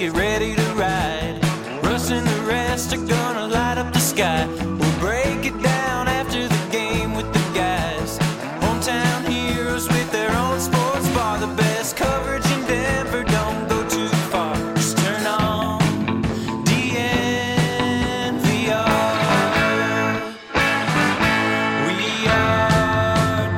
get ready to ride. Russ and the rest are gonna light up the sky. We'll break it down after the game with the guys. Hometown heroes with their own sports bar. The best coverage in Denver, don't go too far. Just turn on DNVR. We are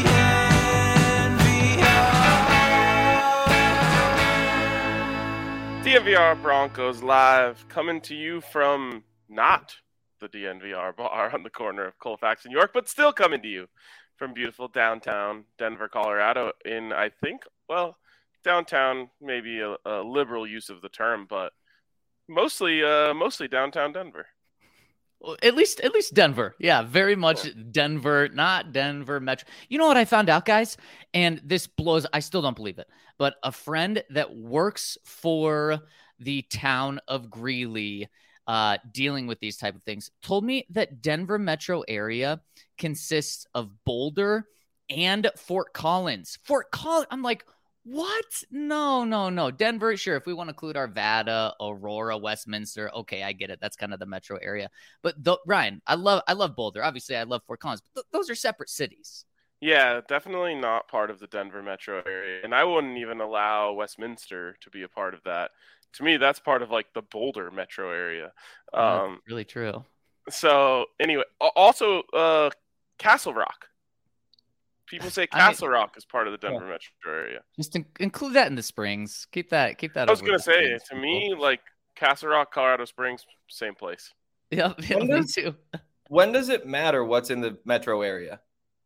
DNVR. DNVR Broncos live, coming to you from not the DNVR bar on the corner of Colfax and York, but still coming to you from beautiful downtown Denver, Colorado. In, I think, well, downtown, maybe a liberal use of the term, but mostly downtown Denver. Well, at least Denver. Yeah, very much Denver, not Denver Metro. You know what I found out, guys? And this blows, I still don't believe it, but a friend that works for the town of Greeley, dealing with these type of things, told me that Denver metro area consists of Boulder and Fort Collins. Fort Collins. I'm like, what? No. Denver, sure. If we want to include Arvada, Aurora, Westminster, okay, I get it. That's kind of the metro area. But Ryan, I love Boulder. Obviously, I love Fort Collins. But those are separate cities. Yeah, definitely not part of the Denver metro area. And I wouldn't even allow Westminster to be a part of that. To me, that's part of like the Boulder metro area. That's really true. So anyway, also Castle Rock. People say Castle Rock is part of the Denver metro area. Just include that in the Springs. Keep that. I was going to say, to me, like Castle Rock, Colorado Springs, same place. Yeah, me too. When does it matter what's in the metro area?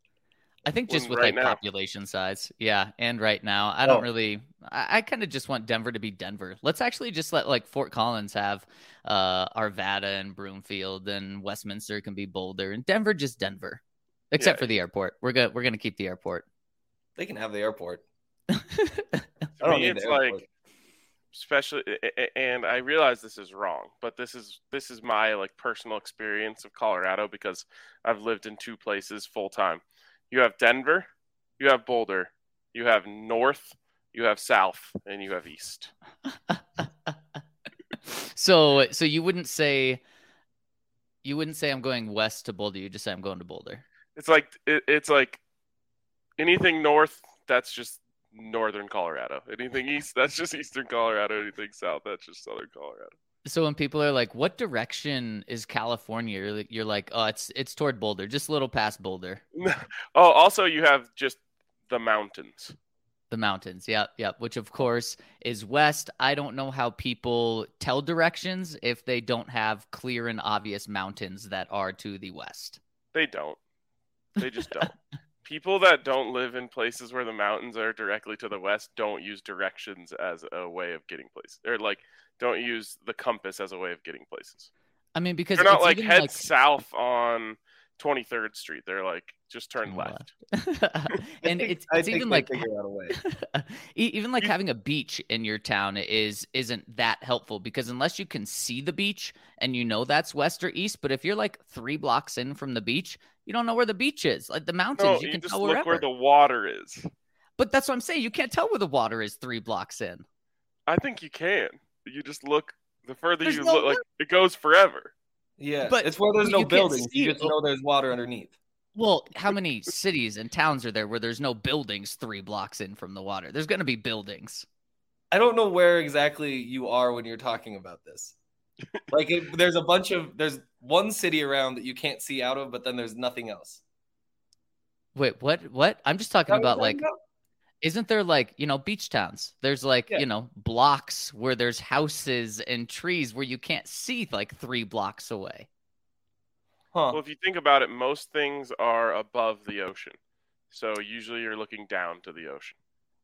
I think just with right like now. population size. Yeah. And right now, I don't really, I kind of just want Denver to be Denver. Let's actually just let like Fort Collins have Arvada and Broomfield, and Westminster can be Boulder, and Denver just Denver, except for the airport. We're going to keep the airport. They can have the airport. To me, it's like, especially, and I realize this is wrong, but this is my like personal experience of Colorado because I've lived in two places full time. You have Denver, you have Boulder, you have North, you have South, and you have East. So you wouldn't say I'm going west to Boulder. You just say I'm going to Boulder. It's like anything north, that's just northern Colorado. Anything east, that's just eastern Colorado. Anything south, that's just southern Colorado. So when people are like, "What direction is California?" You're like, "Oh, it's toward Boulder, just a little past Boulder." Oh, also you have just the mountains. The mountains, yep. Which of course is west. I don't know how people tell directions if they don't have clear and obvious mountains that are to the west. They don't. They just don't. People that don't live in places where the mountains are directly to the west don't use directions as a way of getting places, or like don't use the compass as a way of getting places. I mean, because they're not like head south on 23rd Street. They're like just turn left. And it's even like figure out a way. Even like having a beach in your town isn't that helpful, because unless you can see the beach and you know that's west or east, but if you're like 3 blocks in from the beach, you don't know where the beach is. Like the mountains, you can just tell look wherever. where the water is. But that's what I'm saying. You can't tell where the water is 3 blocks in. I think you can. You just look. The further you look, like it goes forever. Yeah, but it's where there's no buildings. You just know there's water underneath. Well, how many cities and towns are there where there's no buildings 3 blocks in from the water? There's going to be buildings. I don't know where exactly you are when you're talking about this. Like there's one city around that you can't see out of, but then there's nothing else. Wait, what? I'm just talking about like, isn't there like, beach towns? There's like, blocks where there's houses and trees where you can't see like 3 blocks away. Huh. Well, if you think about it, most things are above the ocean. So usually you're looking down to the ocean.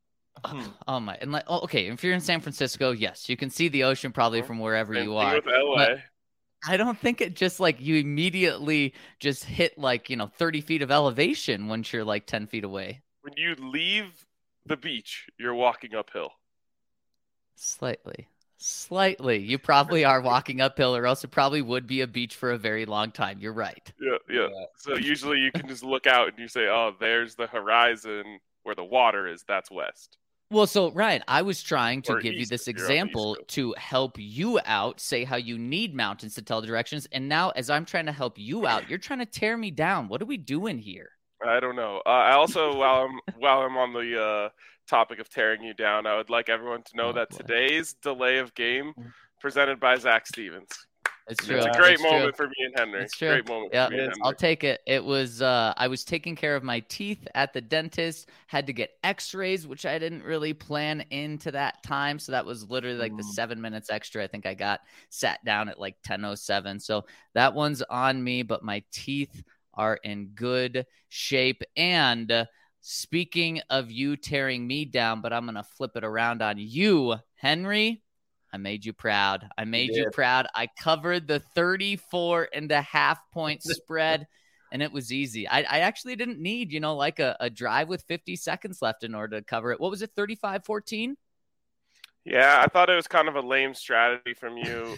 Oh my! And like, okay, if you're in San Francisco, yes, you can see the ocean probably from wherever you are. With LA. I don't think it just like you immediately just hit like 30 feet of elevation once you're like 10 feet away. When you leave the beach, you're walking uphill. Slightly. You probably are walking uphill, or else it probably would be a beach for a very long time. You're right. Yeah. So usually you can just look out and you say, "Oh, there's the horizon where the water is. That's west." Well, so Ryan, I was trying to Or give you east this if you're on the East example Coast. to help you out, say how you need mountains to tell the directions. And now, as I'm trying to help you out, you're trying to tear me down. What are we doing here? I don't know. I also, while I'm on the topic of tearing you down, I would like everyone to know Oh, that boy. today's delay of game presented by Zach Stevens. It's It's true. a great It's true. moment for me and Henry. It's true. Great moment Yeah, for me and I'll Henry. take it. It was I was taking care of my teeth at the dentist, had to get x-rays, which I didn't really plan into that time. So that was literally like the 7 minutes extra. I think I got sat down at like 10:07. So that one's on me, but my teeth are in good shape. And speaking of you tearing me down, but I'm gonna flip it around on you, Henry. I made you proud. I made you proud. I covered the 34.5 point spread, and it was easy. I actually didn't need, like a drive with 50 seconds left in order to cover it. What was it, 35-14? Yeah, I thought it was kind of a lame strategy from you.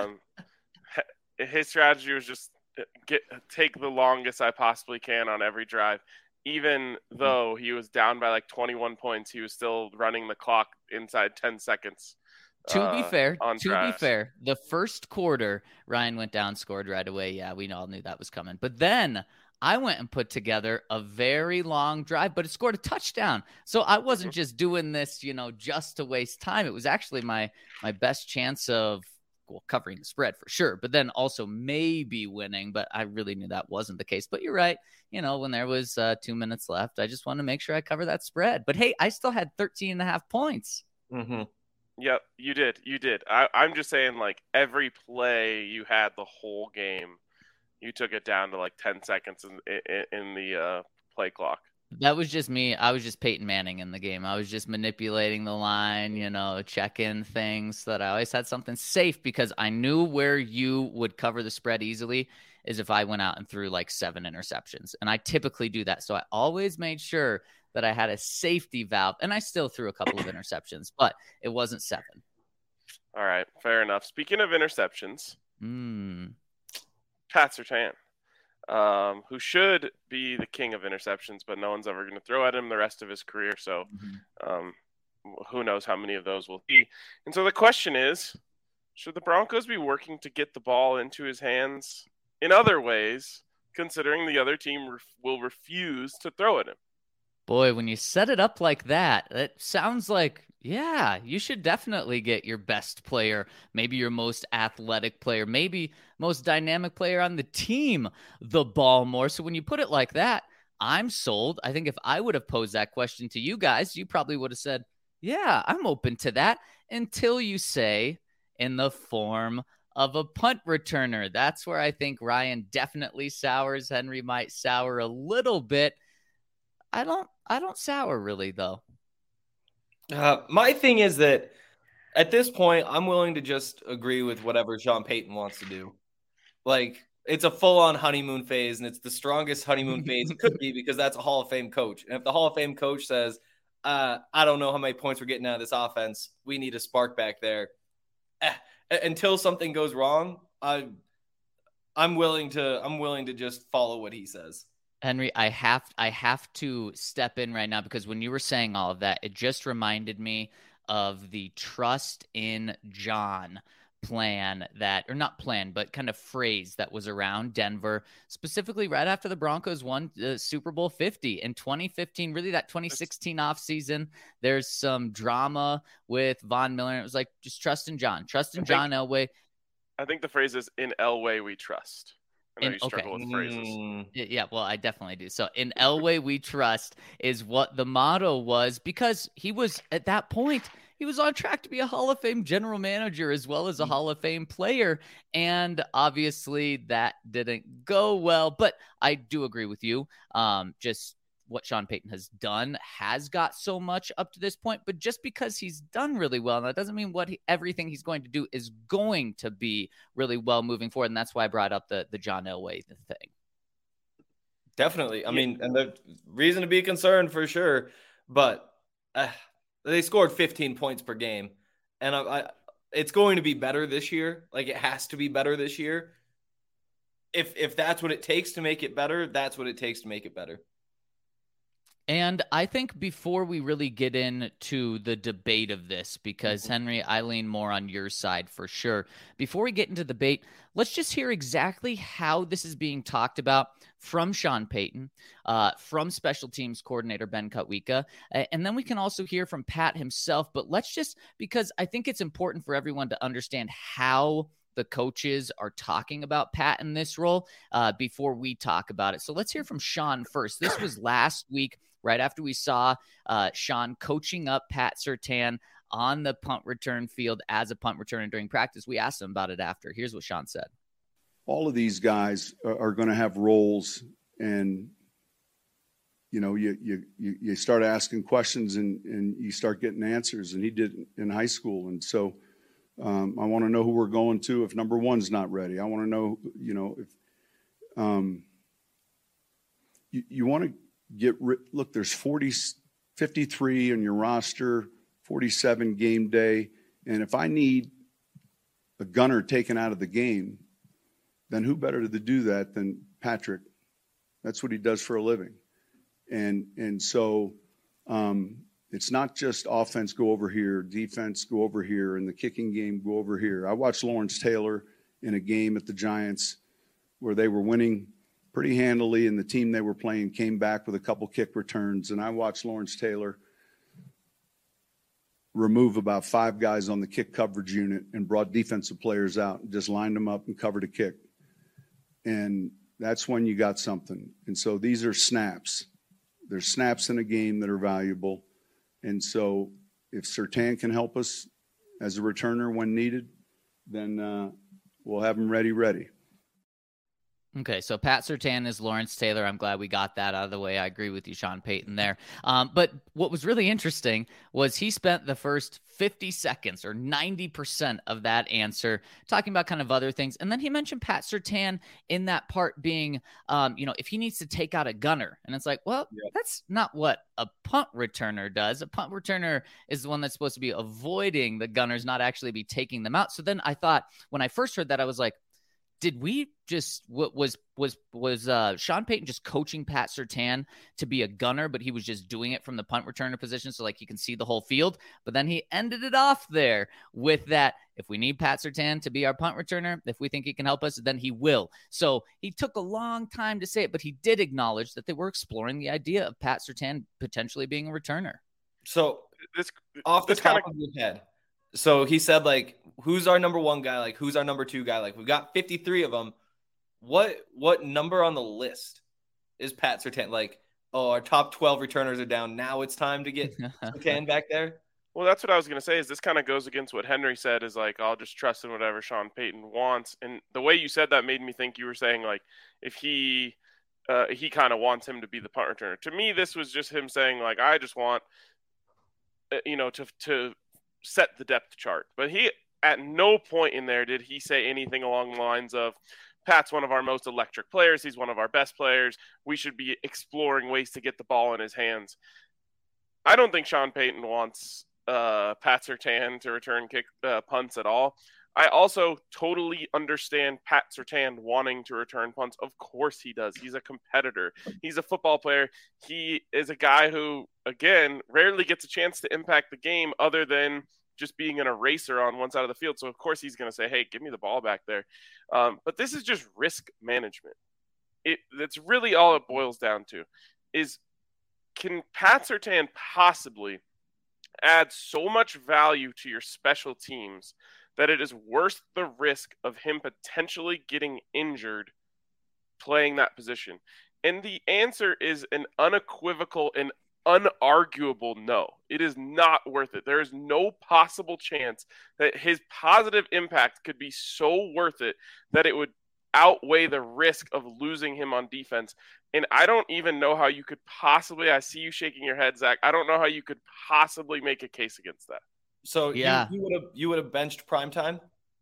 His strategy was just take the longest I possibly can on every drive. Even though he was down by like 21 points, he was still running the clock inside 10 seconds. To be fair, drives. the first quarter, Ryan went down, scored right away. Yeah, we all knew that was coming. But then I went and put together a very long drive, but it scored a touchdown. So I wasn't just doing this, just to waste time. It was actually my best chance of covering the spread for sure, but then also maybe winning. But I really knew that wasn't the case. But you're right. When there was 2 minutes left, I just wanted to make sure I cover that spread. But hey, I still had 13.5 points. Mm-hmm. Yep, you did. I'm just saying, like, every play you had the whole game, you took it down to like 10 seconds in the play clock. That was just me. I was just Peyton Manning in the game. I was just manipulating the line, checking things so that I always had something safe, because I knew where you would cover the spread easily is if I went out and threw like 7 interceptions. And I typically do that. So I always made sure that I had a safety valve, and I still threw a couple of interceptions, but it wasn't 7. All right, fair enough. Speaking of interceptions, Pat Surtain, who should be the king of interceptions, but no one's ever going to throw at him the rest of his career. So who knows how many of those will be. And so the question is, should the Broncos be working to get the ball into his hands in other ways, considering the other team will refuse to throw at him? Boy, when you set it up like that, it sounds like, yeah, you should definitely get your best player, maybe your most athletic player, maybe most dynamic player on the team the ball more. So when you put it like that, I'm sold. I think if I would have posed that question to you guys, you probably would have said, yeah, I'm open to that, until you say in the form of a punt returner. That's where I think Ryan definitely sours. Henry might sour a little bit. I don't sour really, though. My thing is that at this point, I'm willing to just agree with whatever Sean Payton wants to do. Like, it's a full-on honeymoon phase, and it's the strongest honeymoon phase it could be, because that's a Hall of Fame coach. And if the Hall of Fame coach says, I don't know how many points we're getting out of this offense, we need a spark back there. Until something goes wrong, I'm willing to just follow what he says. Henry, I have to step in right now, because when you were saying all of that, it just reminded me of the trust in John plan but kind of phrase that was around Denver, specifically right after the Broncos won Super Bowl 50 in 2015, really that 2016 offseason. There's some drama with Von Miller. And it was like, just trust in John. Trust in John Elway. I think the phrase is, in Elway we trust. I know you struggle with phrases. Yeah, well, I definitely do. So in Elway we trust is what the motto was, because he was, at that point, he was on track to be a Hall of Fame general manager as well as a Hall of Fame player. And obviously that didn't go well. But I do agree with you. Just what Sean Payton has done has got so much up to this point, but just because he's done really well, that doesn't mean everything he's going to do is going to be really well moving forward. And that's why I brought up the John Elway thing. Definitely. I mean, and the reason to be concerned for sure, but they scored 15 points per game, and it's going to be better this year. Like, it has to be better this year. If that's what it takes to make it better, that's what it takes to make it better. And I think before we really get into the debate of this, because Henry, I lean more on your side for sure. Before we get into the debate, let's just hear exactly how this is being talked about from Sean Payton, from special teams coordinator Ben Kutwika, and then we can also hear from Pat himself. But let's just, because I think it's important for everyone to understand how the coaches are talking about Pat in this role before we talk about it. So let's hear from Sean first. This was last week, right after we saw Sean coaching up Pat Surtain on the punt return field as a punt returner during practice. We asked him about it after. Here's what Sean said. All of these guys are going to have roles, and you start asking questions and you start getting answers, and he did in high school. And so I want to know who we're going to if number one's not ready. I want to know, if you want to look, there's 53 on your roster, 47 game day. And if I need a gunner taken out of the game, then who better to do that than Patrick? That's what he does for a living. And so it's not just offense, go over here, defense, go over here, and the kicking game, go over here. I watched Lawrence Taylor in a game at the Giants where they were winning pretty handily, and the team they were playing came back with a couple kick returns. And I watched Lawrence Taylor remove about 5 guys on the kick coverage unit and brought defensive players out and just lined them up and covered a kick. And that's when you got something. And so these are snaps. There's snaps in a game that are valuable. And so if Surtain can help us as a returner when needed, then we'll have him ready. Okay, so Pat Surtain is Lawrence Taylor. I'm glad we got that out of the way. I agree with you, Sean Payton, there. But what was really interesting was he spent the first 50 seconds or 90% of that answer talking about kind of other things. And then he mentioned Pat Surtain in that part being, if he needs to take out a gunner. And it's like, well, That's not what a punt returner does. A punt returner is the one that's supposed to be avoiding the gunners, not actually be taking them out. So then I thought, when I first heard that, I was like, did we just was Sean Payton just coaching Pat Surtain to be a gunner, but he was just doing it from the punt returner position so like he can see the whole field? But then he ended it off there with that. If we need Pat Surtain to be our punt returner, if we think he can help us, then he will. So he took a long time to say it, but he did acknowledge that they were exploring the idea of Pat Surtain potentially being a returner. So off the top of your head. So he said, like, who's our number one guy? Like, who's our number two guy? Like, we've got 53 of them. What number on the list is Pat Surtain? Like, our top 12 returners are down. Now it's time to get Surtain back there? Well, that's what I was going to say is this kind of goes against what Henry said is, like, I'll just trust in whatever Sean Payton wants. And the way you said that made me think you were saying, like, if he kind of wants him to be the punt returner. To me, this was just him saying, like, I just want, to set the depth chart. But he, at no point in there did he say anything along the lines of, Pat's one of our most electric players. He's one of our best players. We should be exploring ways to get the ball in his hands. I don't think Sean Payton wants Pat Surtain to return kick punts at all. I also totally understand Pat Surtain wanting to return punts. Of course he does. He's a competitor. He's a football player. He is a guy who, again, rarely gets a chance to impact the game other than just being an eraser on one side of the field. So, of course, he's going to say, hey, give me the ball back there. But this is just risk management. That's really all it boils down to is, can Pat Surtain possibly add so much value to your special teams that it is worth the risk of him potentially getting injured playing that position? And the answer is an unequivocal and unarguable no. It is not worth it. There is no possible chance that his positive impact could be so worth it that it would outweigh the risk of losing him on defense. And I don't even know how you could possibly, I see you shaking your head, Zach, I don't know how you could possibly make a case against that. So yeah, you would have benched Primetime?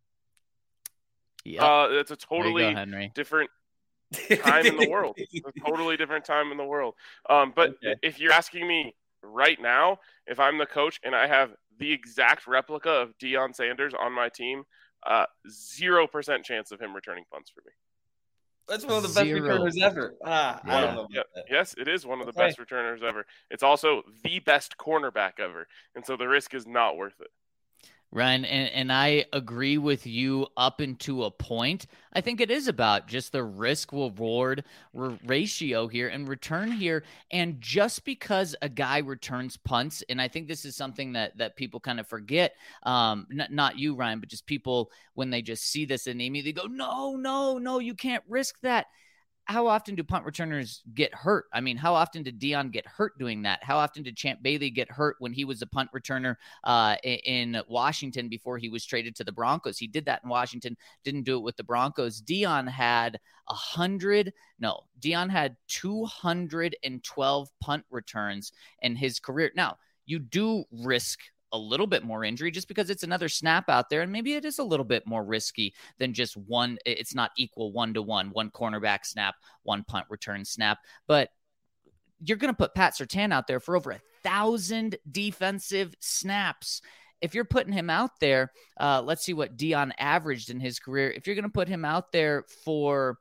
Yeah, it's a totally different time in the world. A totally different time in the world. But if you're asking me right now, if I'm the coach and I have the exact replica of Deion Sanders on my team, 0% chance of him returning punts for me. That's one of the best Zero. returners ever. I Yeah. don't know about Yep. that. Yes, it is one of the Okay. best returners ever. It's also the best cornerback ever, and so the risk is not worth it. Ryan, and I agree with you up into a point. I think it is about just the risk reward ratio here and return here. And just because a guy returns punts, and I think this is something that people kind of forget, not you, Ryan, but just people when they just see this and they immediately go, no, you can't risk that. How often do punt returners get hurt? I mean, how often did Dion get hurt doing that? How often did Champ Bailey get hurt when he was a punt returner in Washington before he was traded to the Broncos? He did that in Washington, didn't do it with the Broncos. Dion had 212 punt returns in his career. Now, you do risk a little bit more injury just because it's another snap out there. And maybe it is a little bit more risky than just one. It's not equal 1-to-1, one cornerback snap, one punt return snap. But you're going to put Pat Surtain out there for over 1,000 defensive snaps. If you're putting him out there, let's see what Dion averaged in his career. If you're going to put him out there for,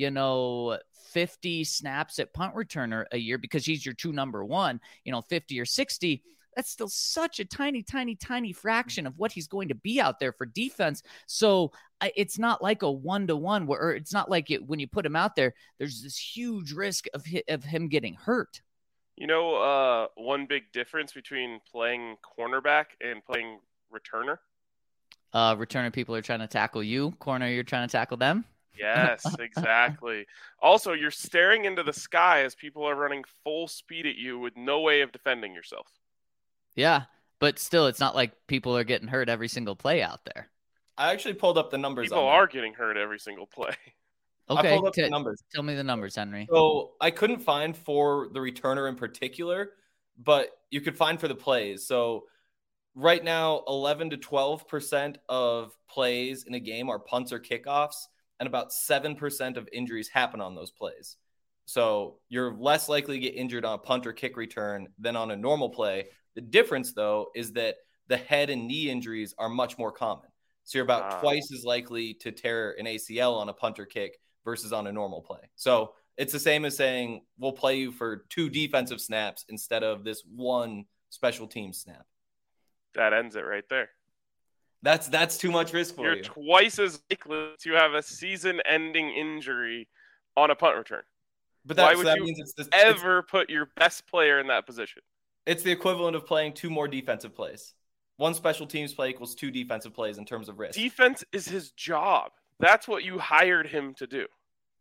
50 snaps at punt returner a year because he's your true number one, 50 or 60, that's still such a tiny fraction of what he's going to be out there for defense. So it's not like a 1-to-1 or it's not like when you put him out there, there's this huge risk of him getting hurt. One big difference between playing cornerback and playing returner? Returner people are trying to tackle you. Corner, you're trying to tackle them. Yes, exactly. Also, you're staring into the sky as people are running full speed at you with no way of defending yourself. Yeah, but still, it's not like people are getting hurt every single play out there. I actually pulled up the numbers. People are getting hurt every single play. Okay, I pulled up the numbers. Tell me the numbers, Henry. So I couldn't find for the returner in particular, but you could find for the plays. So right now, 11 to 12% of plays in a game are punts or kickoffs, and about 7% of injuries happen on those plays. So you're less likely to get injured on a punt or kick return than on a normal play. The difference, though, is that the head and knee injuries are much more common. So you're about twice as likely to tear an ACL on a punt or kick versus on a normal play. So it's the same as saying we'll play you for 2 defensive snaps instead of this 1 special team snap. That ends it right there. That's too much risk for you. You're twice as likely to have a season-ending injury on a punt return. But why would you ever put your best player in that position? It's the equivalent of playing 2 more defensive plays. 1 special teams play equals 2 defensive plays in terms of risk. Defense is his job. That's what you hired him to do.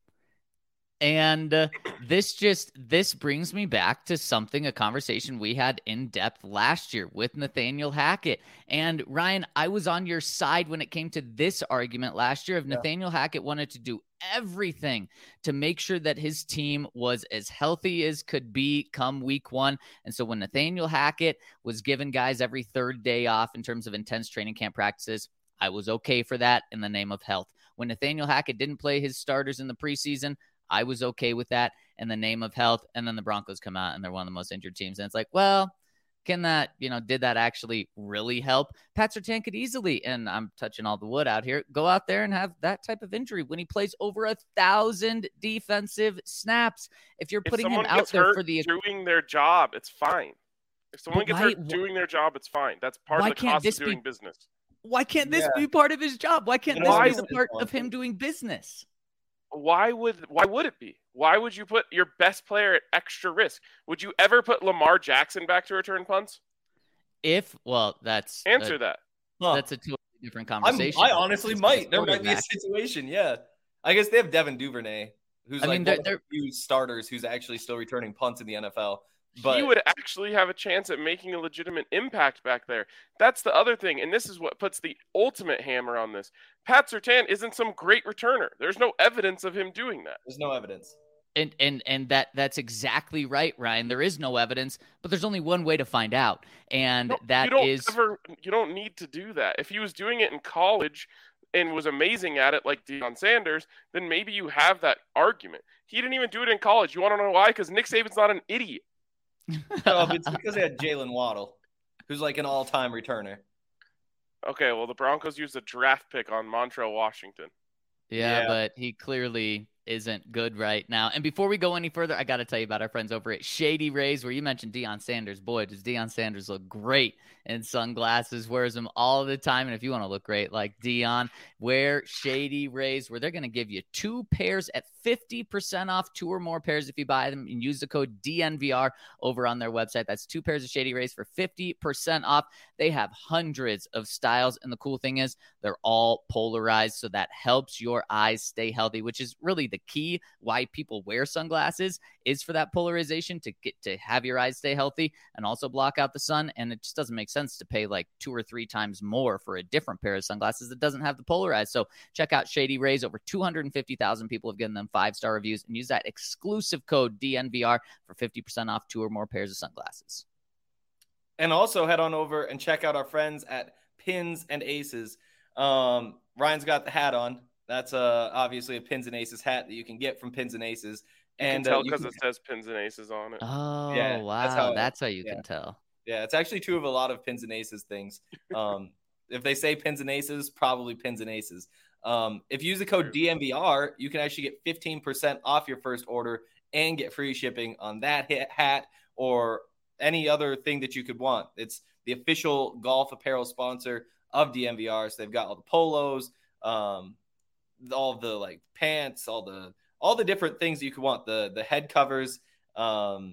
And this brings me back to a conversation we had in depth last year with Nathaniel Hackett. And Ryan, I was on your side when it came to this argument last year of Nathaniel Hackett wanted to do everything to make sure that his team was as healthy as could be come week 1. And so when Nathaniel Hackett was giving guys every 3rd day off in terms of intense training camp practices, I was okay for that in the name of health. When Nathaniel Hackett didn't play his starters in the preseason, I was okay with that in the name of health. And then the Broncos come out and they're one of the most injured teams. And it's like, well, can that, did that actually really help? Pat Surtain could easily, and I'm touching all the wood out here, go out there and have that type of injury when he plays over 1,000 defensive snaps. If you're putting him out there for doing their job, it's fine. If someone gets hurt doing their job, it's fine. That's part of the cost of doing business. Why can't this be part of his job? Why can't this be the part of him doing business? Why would it be? Why would you put your best player at extra risk? Would you ever put Lamar Jackson back to return punts? That's answer that. That's a totally different conversation. I honestly might. There might be a situation. Yeah, I guess they have Devin Duvernay, who's one of the few starters who's actually still returning punts in the NFL. But he would actually have a chance at making a legitimate impact back there. That's the other thing, and this is what puts the ultimate hammer on this. Pat Surtain isn't some great returner. There's no evidence of him doing that. There's no evidence. And that's exactly right, Ryan. There is no evidence, but there's only one way to find out, and you don't need to do that. If he was doing it in college and was amazing at it like Deion Sanders, then maybe you have that argument. He didn't even do it in college. You want to know why? Because Nick Saban's not an idiot. No, it's because they had Jalen Waddle, who's like an all-time returner. Okay, well, the Broncos used a draft pick on Montrell Washington. Yeah, but he clearly isn't good right now. And before we go any further, I got to tell you about our friends over at Shady Rays, where you mentioned Deion Sanders. Boy, does Deion Sanders look great in sunglasses, wears them all the time. And if you want to look great like Deion, wear Shady Rays, where they're going to give you 2 pairs at 50% off, 2 or more pairs if you buy them and use the code DNVR over on their website. That's 2 pairs of Shady Rays for 50% off. They have hundreds of styles, and the cool thing is they're all polarized, so that helps your eyes stay healthy, which is really the key why people wear sunglasses, is for that polarization, to get to have your eyes stay healthy and also block out the sun. And it just doesn't make sense to pay like 2 or 3 times more for a different pair of sunglasses that doesn't have the polarized. So check out Shady Rays. Over 250,000 people have given them 5-star reviews, and use that exclusive code DNVR for 50% off 2 or more pairs of sunglasses. And also head on over and check out our friends at Pins and Aces. Ryan's got the hat on. That's obviously a Pins and Aces hat that you can get from Pins and Aces. You can tell because it says Pins and Aces on it. Oh, Yeah, wow. That's how you can tell. Yeah, it's actually true of a lot of Pins and Aces things. If they say Pins and Aces, probably Pins and Aces. If you use the code DNVR, you can actually get 15% off your first order and get free shipping on that hat or any other thing that you could want. It's the official golf apparel sponsor of DNVR. So they've got all the polos, all the like pants, all the different things you could want, the head covers. I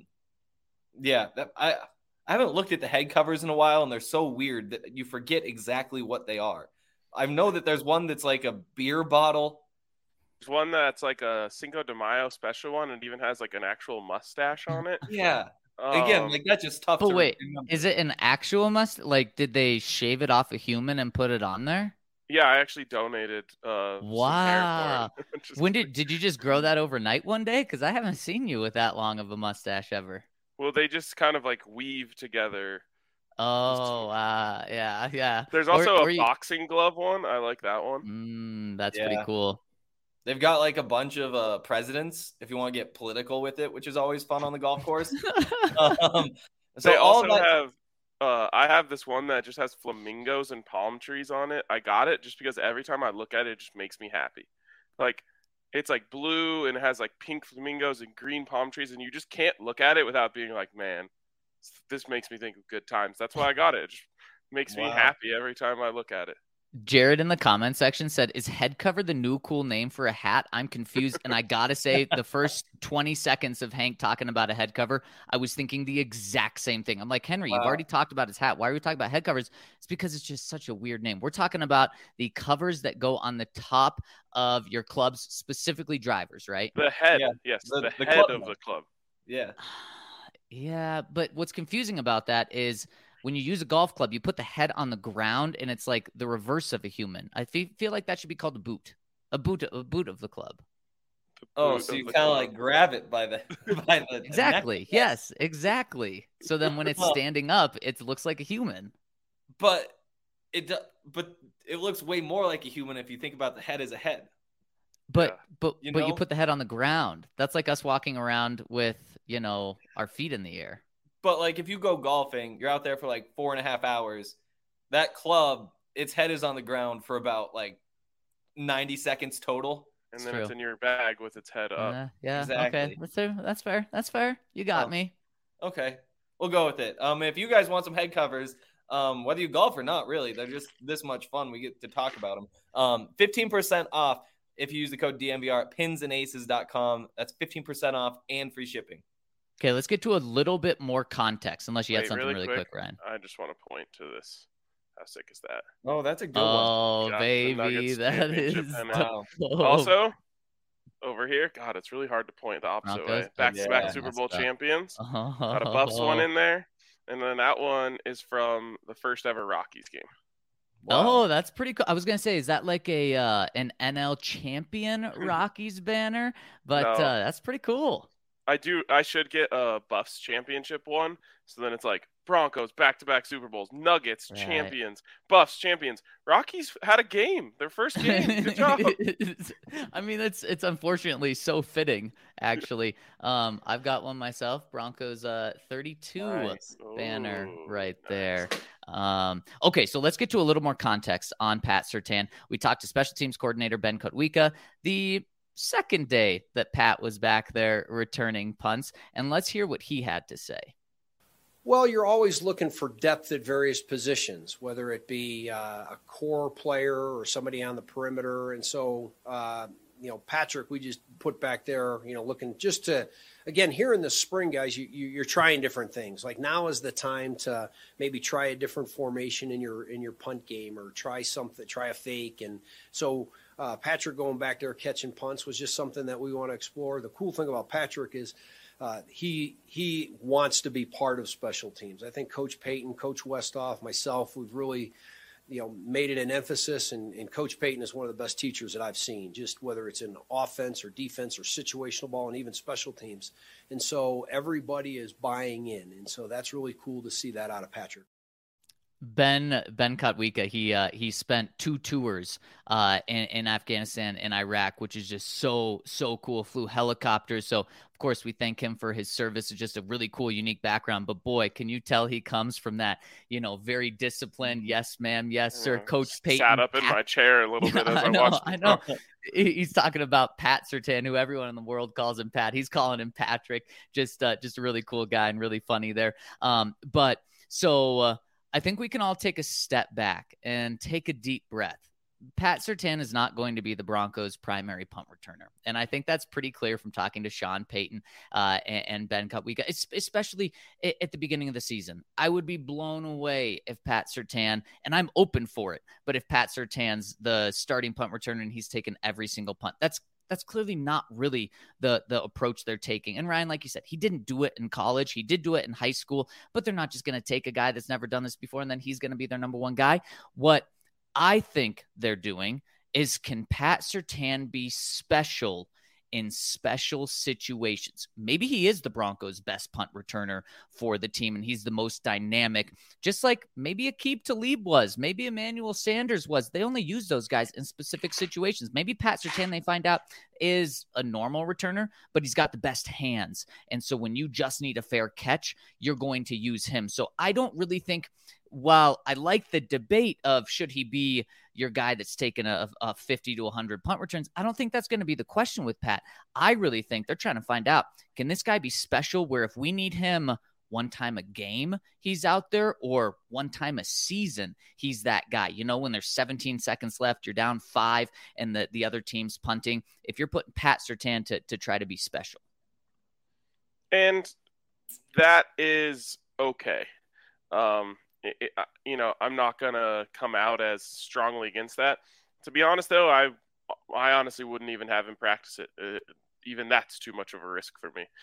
haven't looked at the head covers in a while, and they're so weird that you forget exactly what they are. I know that there's one that's like a beer bottle. There's one that's like a Cinco de Mayo special one, and even has like an actual mustache on it. Yeah. Again, like that's just tough. But to wait, remember. is it an actual Like, did they shave it off a human and put it on there? Yeah, I actually donated. Wow. Some hair for it. When did you just grow that overnight one day? Because I haven't seen you with that long of a mustache ever. Well, they just kind of like weave together. Oh, yeah. There's also a boxing glove one. I like that one. That's pretty cool. They've got like a bunch of presidents if you want to get political with it, which is always fun on the golf course. They also have. I have this one that just has flamingos and palm trees on it. I got it just because every time I look at it, it just makes me happy. Like, it's like blue and it has like pink flamingos and green palm trees, and you just can't look at it without being like, man, this makes me think of good times. That's why I got it. It just makes me happy every time I look at it. Jared in the comment section said, is head cover the new cool name for a hat? I'm confused. And I got to say, the first 20 seconds of Hank talking about a head cover, I was thinking the exact same thing. I'm like, Henry, you've already talked about his hat. Why are we talking about head covers? It's because it's just such a weird name. We're talking about the covers that go on the top of your clubs, specifically drivers, right? The head. Yeah. Yes. The head of the club. Yeah. Yeah. But what's confusing about that is, when you use a golf club, you put the head on the ground, and it's like the reverse of a human. I feel like that should be called a boot of the club. Oh, so you kind of like grab it by the exactly. neck. Yes, exactly. So then when it's standing up, it looks like a human. But it looks way more like a human if you think about the head as a head. But you put the head on the ground. That's like us walking around with, our feet in the air. But like if you go golfing, you're out there for like 4.5 hours. That club, its head is on the ground for about like 90 seconds total. And then it's in your bag with its head up. Yeah, exactly. Okay. That's fair. That's fair. You got me. Okay. We'll go with it. If you guys want some head covers, whether you golf or not, really, they're just this much fun. We get to talk about them. 15% off if you use the code DNVR at pinsandaces.com. That's 15% off and free shipping. Okay, let's get to a little bit more context, unless you had something really quick, Ryan. I just want to point to this. How sick is that? Oh, that's a good one. Oh, baby, that is. Wow. Also, over here, God, it's really hard to point the opposite way. Back-to-back Super Bowl champions. Got a Buffs one in there. And then that one is from the first ever Rockies game. Wow. Oh, that's pretty cool. I was gonna say, is that like an NL champion Rockies banner? But no. That's pretty cool. I should get a Buffs championship one. So then it's like Broncos, back-to-back Super Bowls, Nuggets, champions, Buffs, champions. Rockies had a game, their first game. Good job. I mean, it's unfortunately so fitting, actually. I've got one myself, Broncos 32 banner right there. Okay, so let's get to a little more context on Pat Surtain. We talked to special teams coordinator Ben Kotwika. The second day that Pat was back there returning punts. And let's hear what he had to say. Well, you're always looking for depth at various positions, whether it be a core player or somebody on the perimeter. And so, Patrick, we just put back there, looking just to, again, here in the spring, guys, you're trying different things. Like now is the time to maybe try a different formation in your punt game, or try a fake. And so Patrick going back there catching punts was just something that we want to explore. The cool thing about Patrick is he wants to be part of special teams. I think Coach Payton, Coach Westhoff, myself, we've really made it an emphasis, and Coach Payton is one of the best teachers that I've seen, just whether it's in offense or defense or situational ball and even special teams. And so everybody is buying in. And so that's really cool to see that out of Patrick. Ben Kotwika, he spent 2 tours in Afghanistan and Iraq, which is just so cool. Flew helicopters. So of course we thank him for his service. It's just a really cool, unique background. But boy, can you tell he comes from that, very disciplined, yes ma'am, yes sir, Coach Payton. Sat up in my chair a little bit as I watched. I know. He's talking about Pat Surtain, who everyone in the world calls him Pat. He's calling him Patrick. Just a really cool guy and really funny there. I think we can all take a step back and take a deep breath. Pat Surtain is not going to be the Broncos' primary punt returner. And I think that's pretty clear from talking to Sean Payton and Ben Kotwika, especially at the beginning of the season. I would be blown away if Pat Surtain, and I'm open for it, but if Pat Surtain's the starting punt returner and he's taken every single punt, that's clearly not really the approach they're taking. And Ryan, like you said, he didn't do it in college. He did do it in high school, but they're not just going to take a guy that's never done this before and then he's going to be their number one guy. What I think they're doing is, can Pat Surtain be special in special situations? Maybe he is the Broncos' best punt returner for the team, and he's the most dynamic, just like maybe Aqib Talib was, maybe Emmanuel Sanders was. They only use those guys in specific situations. Maybe Pat Surtain, they find out, is a normal returner, but he's got the best hands. And so when you just need a fair catch, you're going to use him. So I don't really think, while I like the debate of should he be your guy that's taken a 50 to 100 punt returns, I don't think that's going to be the question with Pat. I really think they're trying to find out, can this guy be special where if we need him one time a game, he's out there, or one time a season, he's that guy. When there's 17 seconds left, you're down 5 and the other team's punting. If you're putting Pat Surtain to try to be special. And that is okay. I'm not going to come out as strongly against that. To be honest, though, I honestly wouldn't even have him practice it. Even that's too much of a risk for me.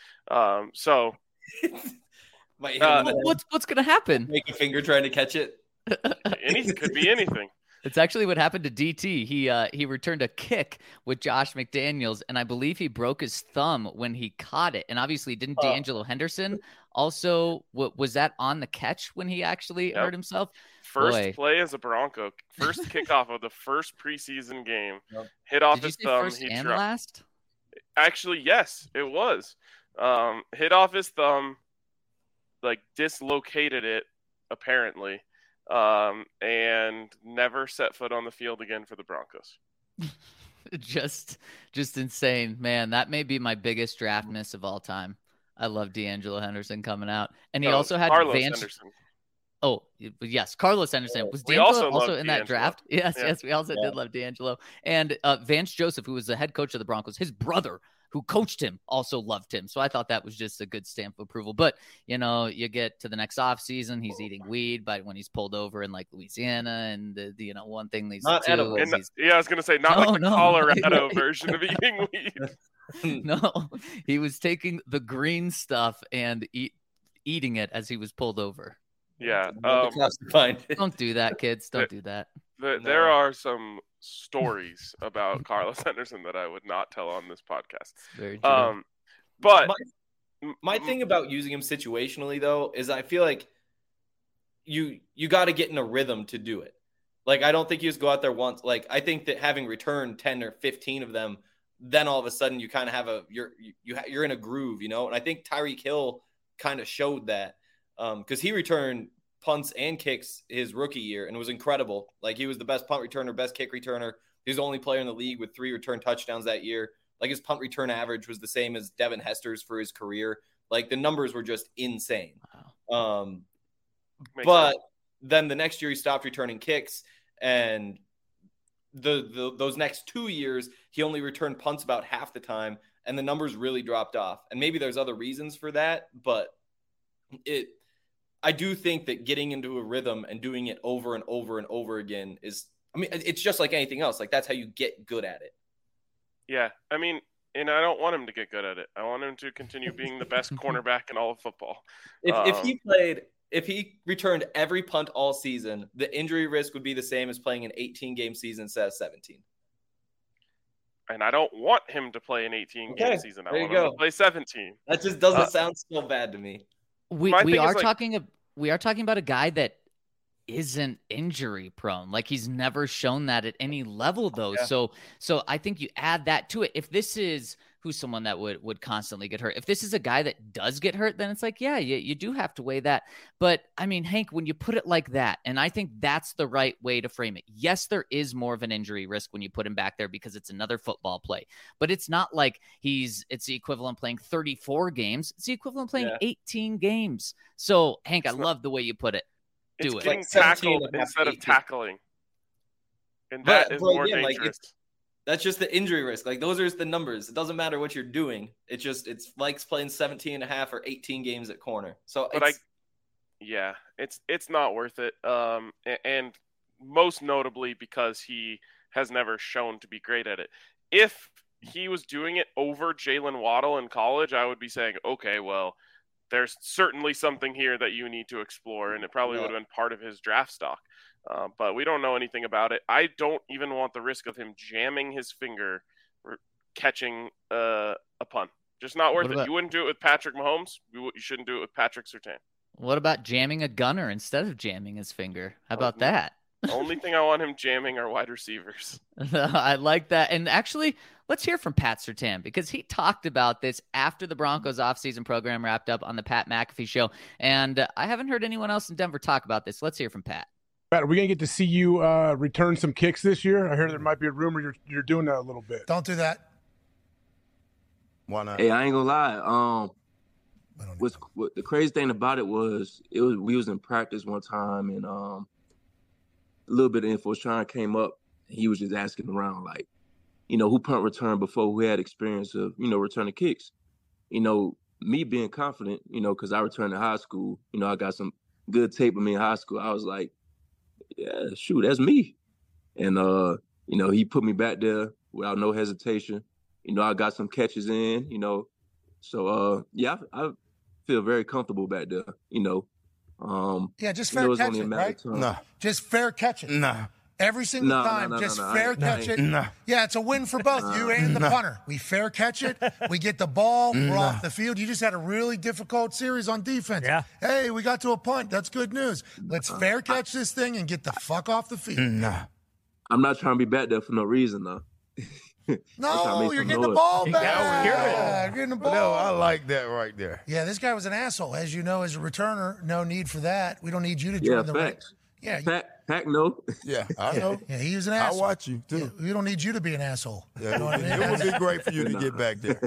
What's going to happen? Make a finger trying to catch it. Anything could be anything. It's actually what happened to DT. He returned a kick with Josh McDaniels, and I believe he broke his thumb when he caught it. And obviously, didn't D'Angelo Henderson also, was that on the catch when he actually hurt himself? First play as a Bronco, first kickoff of the first preseason game, hit off his thumb. First and last? Actually, yes, it was. Hit off his thumb, dislocated it, apparently. And never set foot on the field again for the Broncos. just insane, man. That may be my biggest draft miss of all time. I love D'Angelo Henderson coming out, and he also had Carlos Henderson. Oh yes, Carlos Henderson. Was D'Angelo also in that draft? Yes, we also did love D'Angelo, and Vance Joseph, who was the head coach of the Broncos, his brother, who coached him, also loved him. So I thought that was just a good stamp of approval. But, you get to the next off season, he's eating weed when he's pulled over in Louisiana. And, one thing leads to two. I was going to say, the Colorado version of eating weed. No, he was taking the green stuff and eating it as he was pulled over. Yeah. Don't do that, kids. Don't do that. There are some stories about Carlos Henderson that I would not tell on this podcast. Very true. But my thing about using him situationally, though, is I feel like you got to get in a rhythm to do it. I don't think you just go out there once. I think that having returned 10 or 15 of them, then all of a sudden you kind of have you're in a groove, And I think Tyreek Hill kind of showed that because he returned punts and kicks his rookie year and was incredible. He was the best punt returner, best kick returner. He was the only player in the league with 3 return touchdowns that year. Like his punt return average was the same as Devin Hester's for his career. Like the numbers were just insane. Makes But sense. then the next year he stopped returning kicks, and those next 2 years he only returned punts about half the time, and the numbers really dropped off. And maybe there's other reasons for that, but I do think that getting into a rhythm and doing it over and over and over again it's just like anything else. Like that's how you get good at it. Yeah, I mean, and I don't want him to get good at it. I want him to continue being the best cornerback in all of football. If he returned every punt all season, the injury risk would be the same as playing an 18-game season instead of 17. And I don't want him to play an 18-game season. I want him to play 17. That just doesn't sound so bad to me. We are talking about a guy that isn't injury prone. Like he's never shown that at any level though. Yeah. So I think you add that to it. If this is who's someone that would constantly get hurt, if this is a guy that does get hurt, then it's like, yeah, you do have to weigh that. But I mean, Hank, when you put it like that, and I think that's the right way to frame it. Yes, there is more of an injury risk when you put him back there because it's another football play, but it's not like it's the equivalent playing 34 games. It's the equivalent playing 18 games. So Hank, I love the way you put it. It's getting tackled instead of tackling. And that is more dangerous. That's just the injury risk. Like those are the numbers. It doesn't matter what you're doing. It's like playing 17 and a half or 18 games at corner. So it's not worth it. And most notably because he has never shown to be great at it. If he was doing it over Jalen Waddle in college, I would be saying, okay, well, there's certainly something here that you need to explore, and it probably would have been part of his draft stock. But we don't know anything about it. I don't even want the risk of him jamming his finger or catching a punt. Just not worth it. You wouldn't do it with Patrick Mahomes. You shouldn't do it with Patrick Surtain. What about jamming a gunner instead of jamming his finger? How about that? The only thing I want him jamming are wide receivers. I like that. And actually, let's hear from Pat Surtain because he talked about this after the Broncos offseason program wrapped up on the Pat McAfee show. And I haven't heard anyone else in Denver talk about this. Let's hear from Pat. Pat, are we going to get to see you return some kicks this year? I heard there might be a rumor you're doing that a little bit. Don't do that. Why not? Hey, I ain't going to lie. What the crazy thing about it was we was in practice one time and a little bit of info came up. He was just asking around, like, who punt return before, who had experience of, returning kicks. Me being confident, because I returned to high school, I got some good tape of me in high school. I was like, yeah, shoot, that's me. And, he put me back there without no hesitation. I got some catches in, So, I feel very comfortable back there, just fair catch it, right? No. Just fair catch it. No. Every single time, fair catch it. No. Yeah, it's a win for both you and the punter. We fair catch it. We get the ball. We're off the field. You just had a really difficult series on defense. Yeah. Hey, we got to a punt. That's good news. Let's fair catch this thing and get the fuck off the field. No. I'm not trying to be back there for no reason, though. No, you're getting the ball back. Yeah, you're getting the ball. No, I like that right there. Yeah, this guy was an asshole. As you know, as a returner, no need for that. We don't need you to join the facts. Yeah, Pack, no. Yeah, I know. Yeah, he was an asshole. I watch you, too. Yeah, we don't need you to be an asshole. Yeah, you know what I mean? It would be great for you to get back there.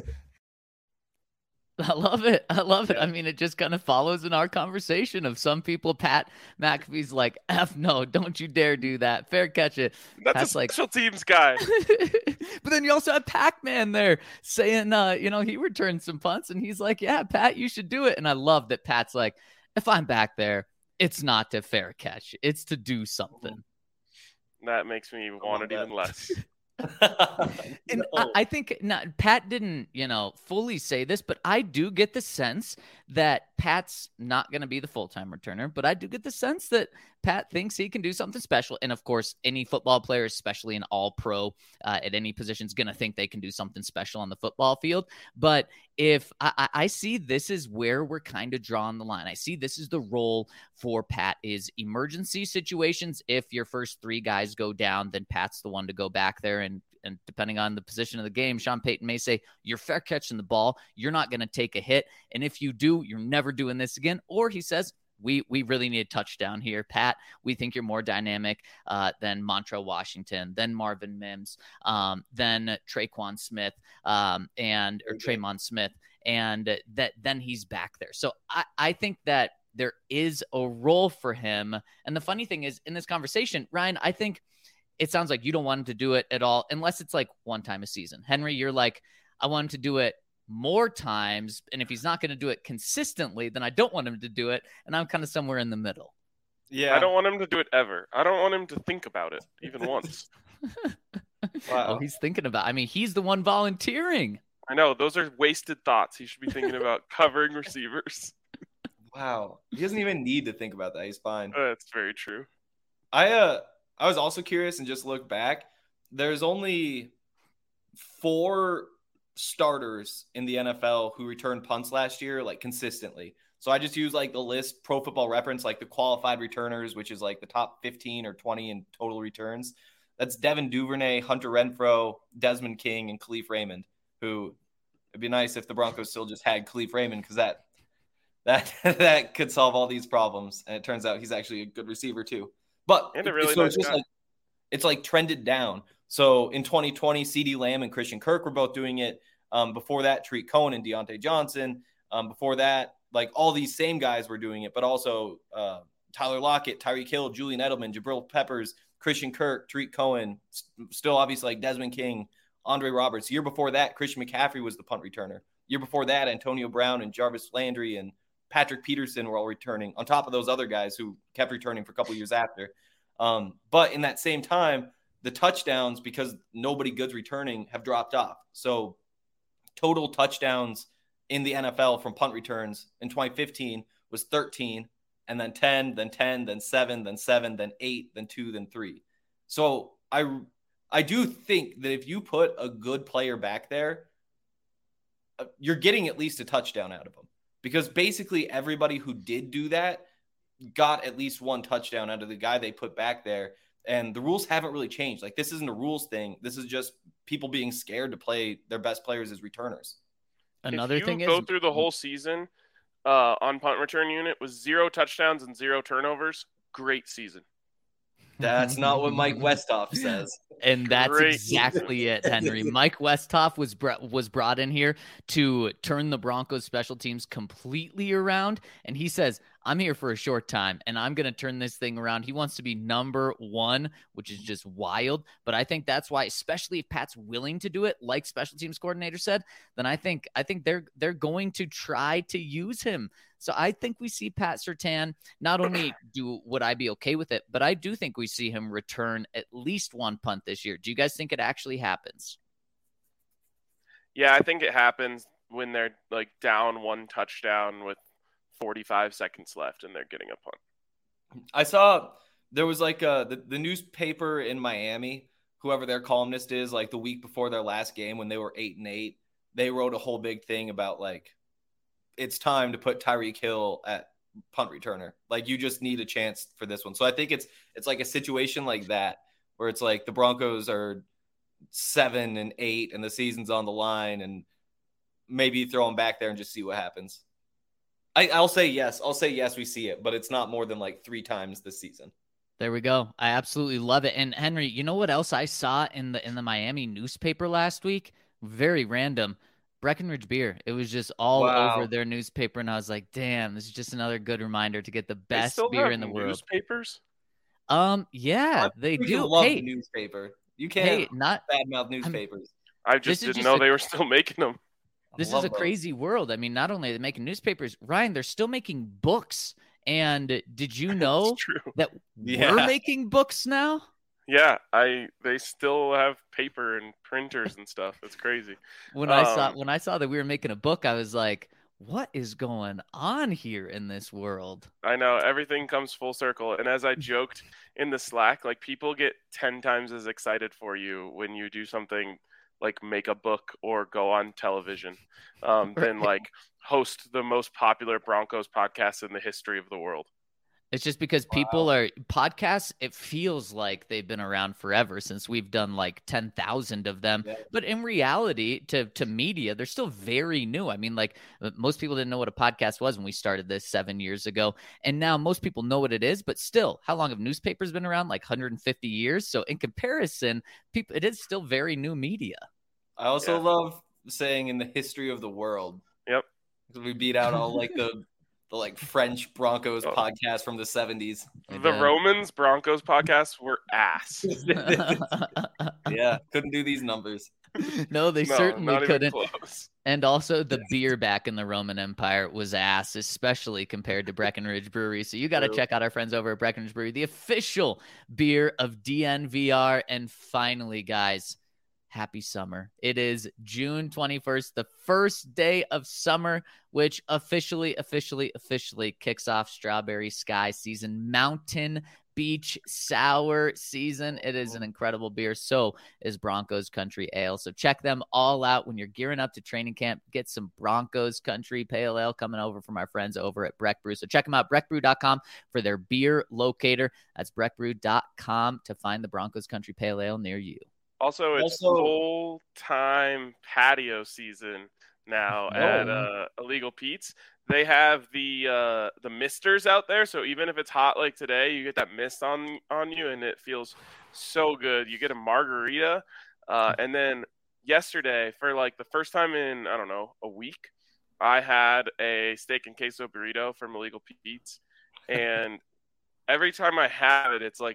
I love it. I mean, it just kind of follows in our conversation of some people. Pat McAfee's like, F no, don't you dare do that. Fair catch it. That's Pat's a special teams guy. But then you also have Pac-Man there saying, he returned some punts and he's like, yeah, Pat, you should do it. And I love that Pat's like, if I'm back there, it's not to fair catch. It's to do something. That makes me want it even less. And I think Pat didn't, fully say this, but I do get the sense that Pat's not going to be the full-time returner, but I do get the sense that Pat thinks he can do something special. And of course, any football player, especially an all-pro at any position, is going to think they can do something special on the football field. But if I see this is where we're kind of drawing the line. I see this is the role for Pat is emergency situations. If your first three guys go down, then Pat's the one to go back there and depending on the position of the game, Sean Payton may say, you're fair catching the ball. You're not going to take a hit. And if you do, you're never doing this again. Or he says, we really need a touchdown here. Pat, we think you're more dynamic than Montrell Washington, than Marvin Mims, than Traquan Smith, or Tremon Smith, and then he's back there. So I think that there is a role for him. And the funny thing is, in this conversation, Ryan, I think it sounds like you don't want him to do it at all, unless it's like one time a season. Henry, you're like, I want him to do it more times. And if he's not going to do it consistently, then I don't want him to do it. And I'm kind of somewhere in the middle. Yeah. I don't want him to do it ever. I don't want him to think about it even once. Wow. Oh, he's thinking about, I mean, he's the one volunteering. I know. Those are wasted thoughts. He should be thinking about covering receivers. Wow. He doesn't even need to think about that. He's fine. That's very true. I was also curious and just look back. There's only 4 starters in the NFL who returned punts last year, like consistently. So I just use like the list, Pro Football Reference, like the qualified returners, which is like the top 15 or 20 in total returns. That's Devin Duvernay, Hunter Renfrow, Desmond King, and Khalif Raymond, who it'd be nice if the Broncos still just had Khalif Raymond, because that could solve all these problems. And it turns out he's actually a good receiver too. But And a really so nice it's just guy. it's like trended down. So in 2020, CeeDee Lamb and Christian Kirk were both doing it. Before that, Tariq Cohen and Deontay Johnson. Before that, like all these same guys were doing it, but also Tyler Lockett, Tyreek Hill, Julian Edelman, Jabril Peppers, Christian Kirk, Tariq Cohen, still obviously like Desmond King, Andre Roberts. Year before that, Christian McCaffrey was the punt returner. Year before that, Antonio Brown and Jarvis Landry and Patrick Peterson were all returning, on top of those other guys who kept returning for a couple years after. But in that same time, the touchdowns, because nobody good's returning, have dropped off. So total touchdowns in the NFL from punt returns in 2015 was 13, and then 10, then 10, then 7, then 7, then 8, then 2, then 3. So I do think that if you put a good player back there, you're getting at least a touchdown out of them. Because basically everybody who did do that got at least one touchdown out of the guy they put back there. And the rules haven't really changed. Like, this isn't a rules thing. This is just people being scared to play their best players as returners. Another if you thing go is, through the whole season on punt return unit with 0 touchdowns and 0 turnovers, great season. That's not what Mike Westhoff says. And that's Great. exactly it, Henry. Mike Westhoff was brought in here to turn the Broncos special teams completely around. And he says, I'm here for a short time and I'm going to turn this thing around. He wants to be number 1, which is just wild. But I think that's why, especially if Pat's willing to do it, like special teams coordinator said, then I think they're going to try to use him. So I think we see Pat Surtain not only would I be okay with it, but I do think we see him return at least 1 punt this year. Do you guys think it actually happens? Yeah, I think it happens when they're like down 1 touchdown with 45 seconds left and they're getting a punt. I saw there was like the newspaper in Miami, whoever their columnist is, like the week before their last game when they were 8-8, they wrote a whole big thing about like, it's time to put Tyreek Hill at punt returner. Like, you just need a chance for this one. So I think it's like a situation like that where it's like the Broncos are 7-8 and the season's on the line, and maybe throw them back there and just see what happens. I'll say yes. We see it, but it's not more than like 3 times this season. There we go. I absolutely love it. And Henry, you know what else I saw in the Miami newspaper last week? Very random. Breckenridge beer. It was just all over their newspaper, and I was like, "Damn, this is just another good reminder to get the best beer in the world." Newspapers? Yeah, they do. Love Hey, the newspaper. You can't not badmouth newspapers. I just didn't know they were still making them. This is a crazy world. I mean, not only are they making newspapers, Ryan, they're still making books. And did you know that we're making books now? Yeah, they still have paper and printers and stuff. It's crazy. When I saw that we were making a book, I was like, what is going on here in this world? I know, everything comes full circle. And as I joked in the Slack, like, people get 10 times as excited for you when you do something like make a book or go on television than like host the most popular Broncos podcast in the history of the world. It's just because people are podcasts. It feels like they've been around forever since we've done like 10,000 of them. Yeah. But in reality, to media, they're still very new. I mean, like most people didn't know what a podcast was when we started this 7 years ago. And now most people know what it is. But still, how long have newspapers been around? Like 150 years. So in comparison, it is still very new media. I also love saying in the history of the world. Yep. We beat out all like the like French Broncos podcast from the 70s. The Romans Broncos podcasts were ass. Yeah, couldn't do these numbers. No, they certainly couldn't. And also the beer back in the Roman Empire was ass, especially compared to Breckenridge Brewery. So you got to check out our friends over at Breckenridge Brewery, the official beer of DNVR. And finally, guys, happy summer. It is June 21st, the first day of summer, which officially kicks off Strawberry Sky season, Mountain Beach Sour season. It is an incredible beer. So is Broncos Country Ale. So check them all out when you're gearing up to training camp. Get some Broncos Country Pale Ale coming over from our friends over at Breck Brew. So check them out, breckbrew.com for their beer locator. That's breckbrew.com to find the Broncos Country Pale Ale near you. Also, it's full-time patio season now at Illegal Pete's. They have the misters out there, so even if it's hot like today, you get that mist on you, and it feels so good. You get a margarita, and then yesterday, for like the first time in, I don't know, a week, I had a steak and queso burrito from Illegal Pete's, and every time I have it, it's like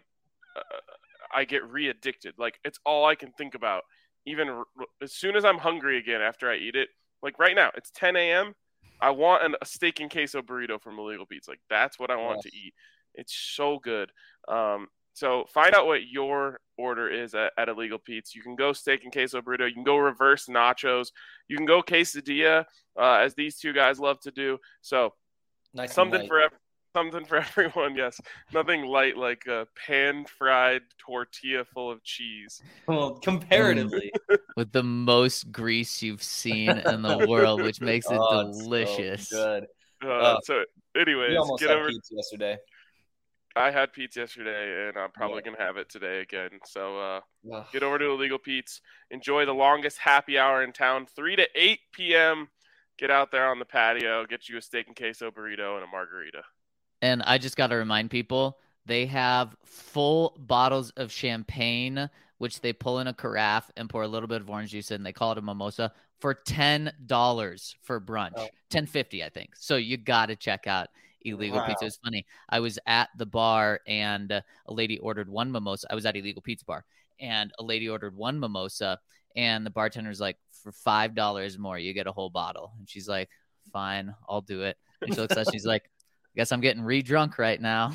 I get re-addicted. Like, it's all I can think about. Even as soon as I'm hungry again after I eat it, like right now, it's 10 a.m., I want a steak and queso burrito from Illegal Pete's. Like, that's what I want to eat. It's so good. So find out what your order is at Illegal Pete's. You can go steak and queso burrito. You can go reverse nachos. You can go quesadilla, as these two guys love to do. So nice something for everyone. Yes, nothing light like a pan-fried tortilla full of cheese. Well, comparatively, with the most grease you've seen in the world, which makes it delicious. So good. So, anyways, we almost had pizza yesterday. I had pizza yesterday, and I'm probably gonna have it today again. So, get over to Illegal Pete's. Enjoy the longest happy hour in town, 3 to 8 p.m. Get out there on the patio, get you a steak and queso burrito and a margarita. And I just got to remind people, they have full bottles of champagne, which they pull in a carafe and pour a little bit of orange juice in. They call it a mimosa for $10 for brunch. $10.50, I think. So you got to check out Illegal Pizza. It's funny. I was at the bar and a lady ordered one mimosa. I was at Illegal Pizza Bar and a lady ordered one mimosa and the bartender's like, for $5 more, you get a whole bottle. And she's like, fine, I'll do it. And she looks at us, she's like, guess I'm getting re-drunk right now.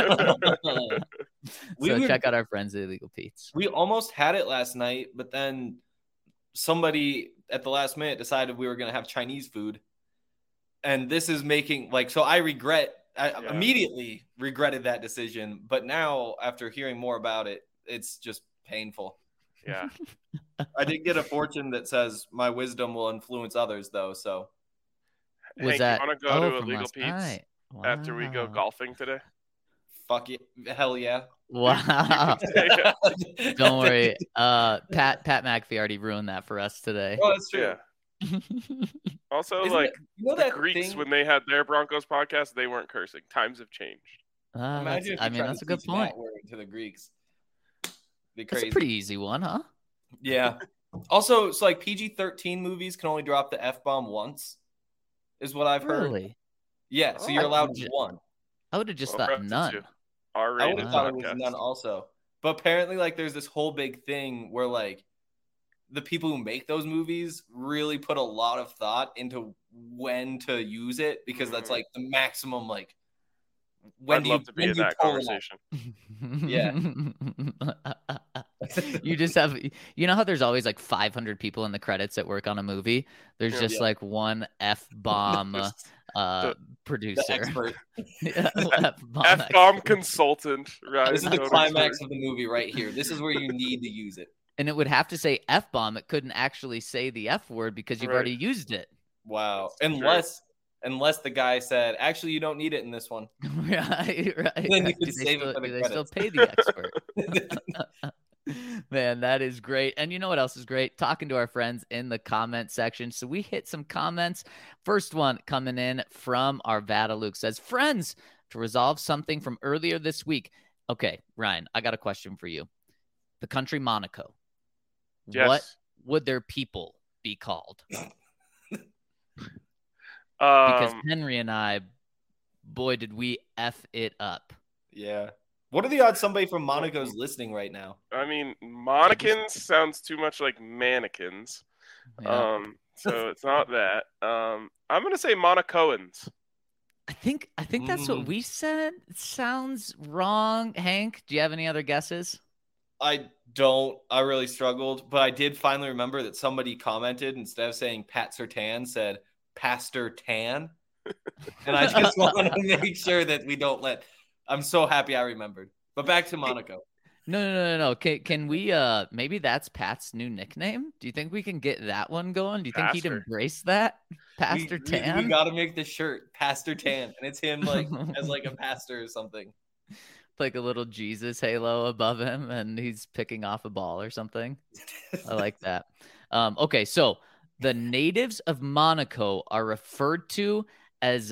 Check out our friends at Illegal Pete's. We almost had it last night, but then somebody at the last minute decided we were going to have Chinese food. And this is making so I immediately regretted that decision. But now after hearing more about it, it's just painful. Yeah. I did get a fortune that says my wisdom will influence others though. So Hank, you want to go to Illegal Pete's after we go golfing today? Fuck it. Hell yeah. Wow. Don't worry. Pat McAfee already ruined that for us today. Oh, that's true. Yeah. Also, the Greeks, when they had their Broncos podcast, they weren't cursing. Times have changed. That's a good point. To the Greeks. That's a pretty easy one, huh? Yeah. Also, it's like PG-13 movies can only drop the F-bomb once, is what I've heard. Really? Yeah, so you're allowed one. I would have just thought none. I would have thought it was none also. But apparently, there's this whole big thing where, the people who make those movies really put a lot of thought into when to use it because that's, the maximum, I'd love to be in that conversation. Yeah. You just have, how there's always 500 people in the credits that work on a movie. There's just one F-bomb producer. F-bomb consultant. Right. This is the climax of the movie right here. This is where you need to use it. And it would have to say F-bomb. It couldn't actually say the F word because you've already used it. Wow. Unless unless the guy said, actually, you don't need it in this one. Right. Then you Do could save still, it for the do they still credits. pay the expert? Man, that is great. And you know what else is great? Talking to our friends in the comment section. So we hit some comments. First one coming in from Arvada Luke says, friends, to resolve something from earlier this week. Okay, Ryan, I got a question for you. The country Monaco. Yes. What would their people be called? Because Henry and I, boy, did we F it up. Yeah. What are the odds somebody from Monaco is listening right now? I mean, Monicans sounds too much like mannequins. Yeah. So it's not that. I'm gonna say Monacoans. I think that's what we said. It sounds wrong. Hank, do you have any other guesses? I don't. I really struggled, but I did finally remember that somebody commented, instead of saying Pat Surtain, said Pastor Tan. And I just want to make sure that we don't let. I'm so happy I remembered. But back to Monaco. No. Can we maybe that's Pat's new nickname? Do you think we can get that one going? Do you think he'd Pastor. embrace that? Pastor Tan? We got to make the shirt Pastor Tan, and it's him like as like a pastor or something. Like a little Jesus halo above him, and he's picking off a ball or something. I like that. Okay, so the natives of Monaco are referred to as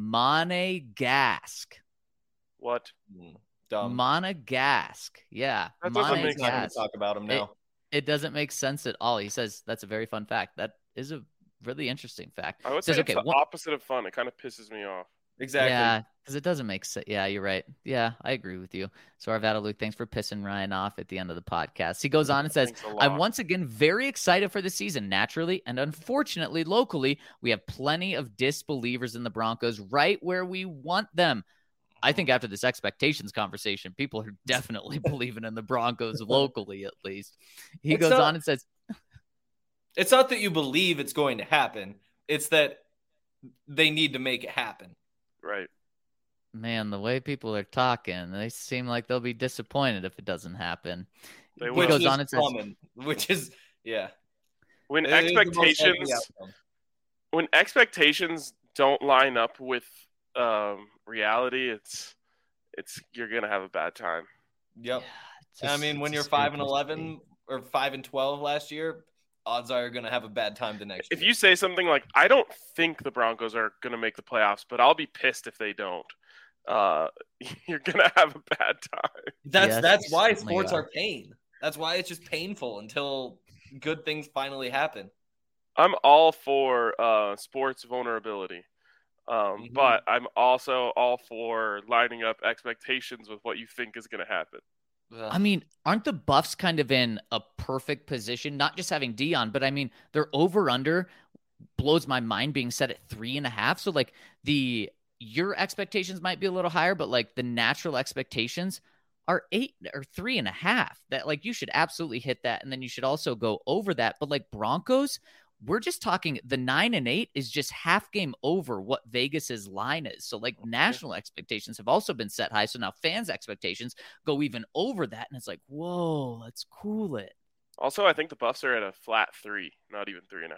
Monegasque. What? Dumb. Monegasque. Yeah. That doesn't Not make gonna Monegasque. talk about him now. It doesn't make sense at all. He says that's a very fun fact. That is a really interesting fact. I would Says, say it's okay, the opposite of fun. It kind of pisses me off. Exactly. Yeah, because it doesn't make sense. Yeah, you're right. Yeah, I agree with you. So Arvada Luke, thanks for pissing Ryan off at the end of the podcast. He goes on and says, Thanks a lot. I'm once again very excited for the season, naturally, and unfortunately, locally, we have plenty of disbelievers in the Broncos right where we want them. I think after this expectations conversation, people are definitely believing in the Broncos locally, at least. He goes on and says, it's not that you believe it's going to happen. It's that they need to make it happen. Right. man, the way people are talking, they seem like they'll be disappointed if it doesn't happen. They He will. goes on and says, which is, yeah. When It is the most likely expectations outcome. when expectations don't line up with reality, it's you're gonna have a bad time. Yep. Yeah, I mean, when you're 5-11 or 5-12 last year, odds are you're gonna have a bad time the next If year. you say something like, "I don't think the Broncos are gonna make the playoffs, but I'll be pissed if they don't," you're gonna have a bad time. That's why certainly sports are. are pain. That's why it's just painful until good things finally happen. I'm all for sports vulnerability, but I'm also all for lining up expectations with what you think is going to happen. I mean, aren't the Buffs kind of in a perfect position? Not just having Dion, but I mean, their over/under blows my mind being set at 3.5. So like your expectations might be a little higher, but like the natural expectations are 8 or 3.5. That like you should absolutely hit that, and then you should also go over that. But like Broncos, we're just talking the 9-8 is just half game over what Vegas's line is. So like national expectations have also been set high. So now fans' expectations go even over that. And it's like, whoa, let's cool it. Also, I think the Buffs are at a flat 3, not even 3.5.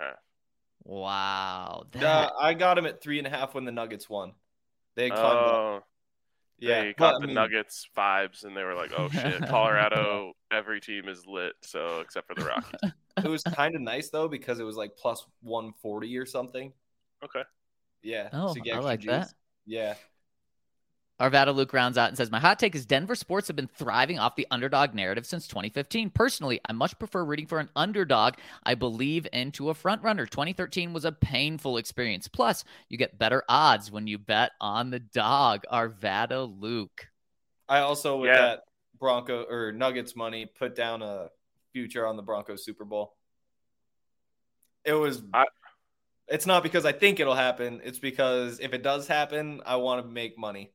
Wow. I got him at 3.5 when the Nuggets won. They climbed up. Yeah, They got the Nuggets vibes, and they were like, "Oh shit, Colorado! Every team is lit, so except for the Rockies." It was kind of nice though because it was like plus 140 or something. Okay. Yeah. Oh, to get I extra like juice. that. Yeah. Arvada Luke rounds out and says, my hot take is Denver sports have been thriving off the underdog narrative since 2015. Personally, I much prefer rooting for an underdog. I believe into a front runner. 2013 was a painful experience. Plus, you get better odds when you bet on the dog. Arvada Luke. I also, with that Bronco or Nuggets money, put down a future on the Broncos Super Bowl. It was... it's not because I think it'll happen. It's because if it does happen, I want to make money.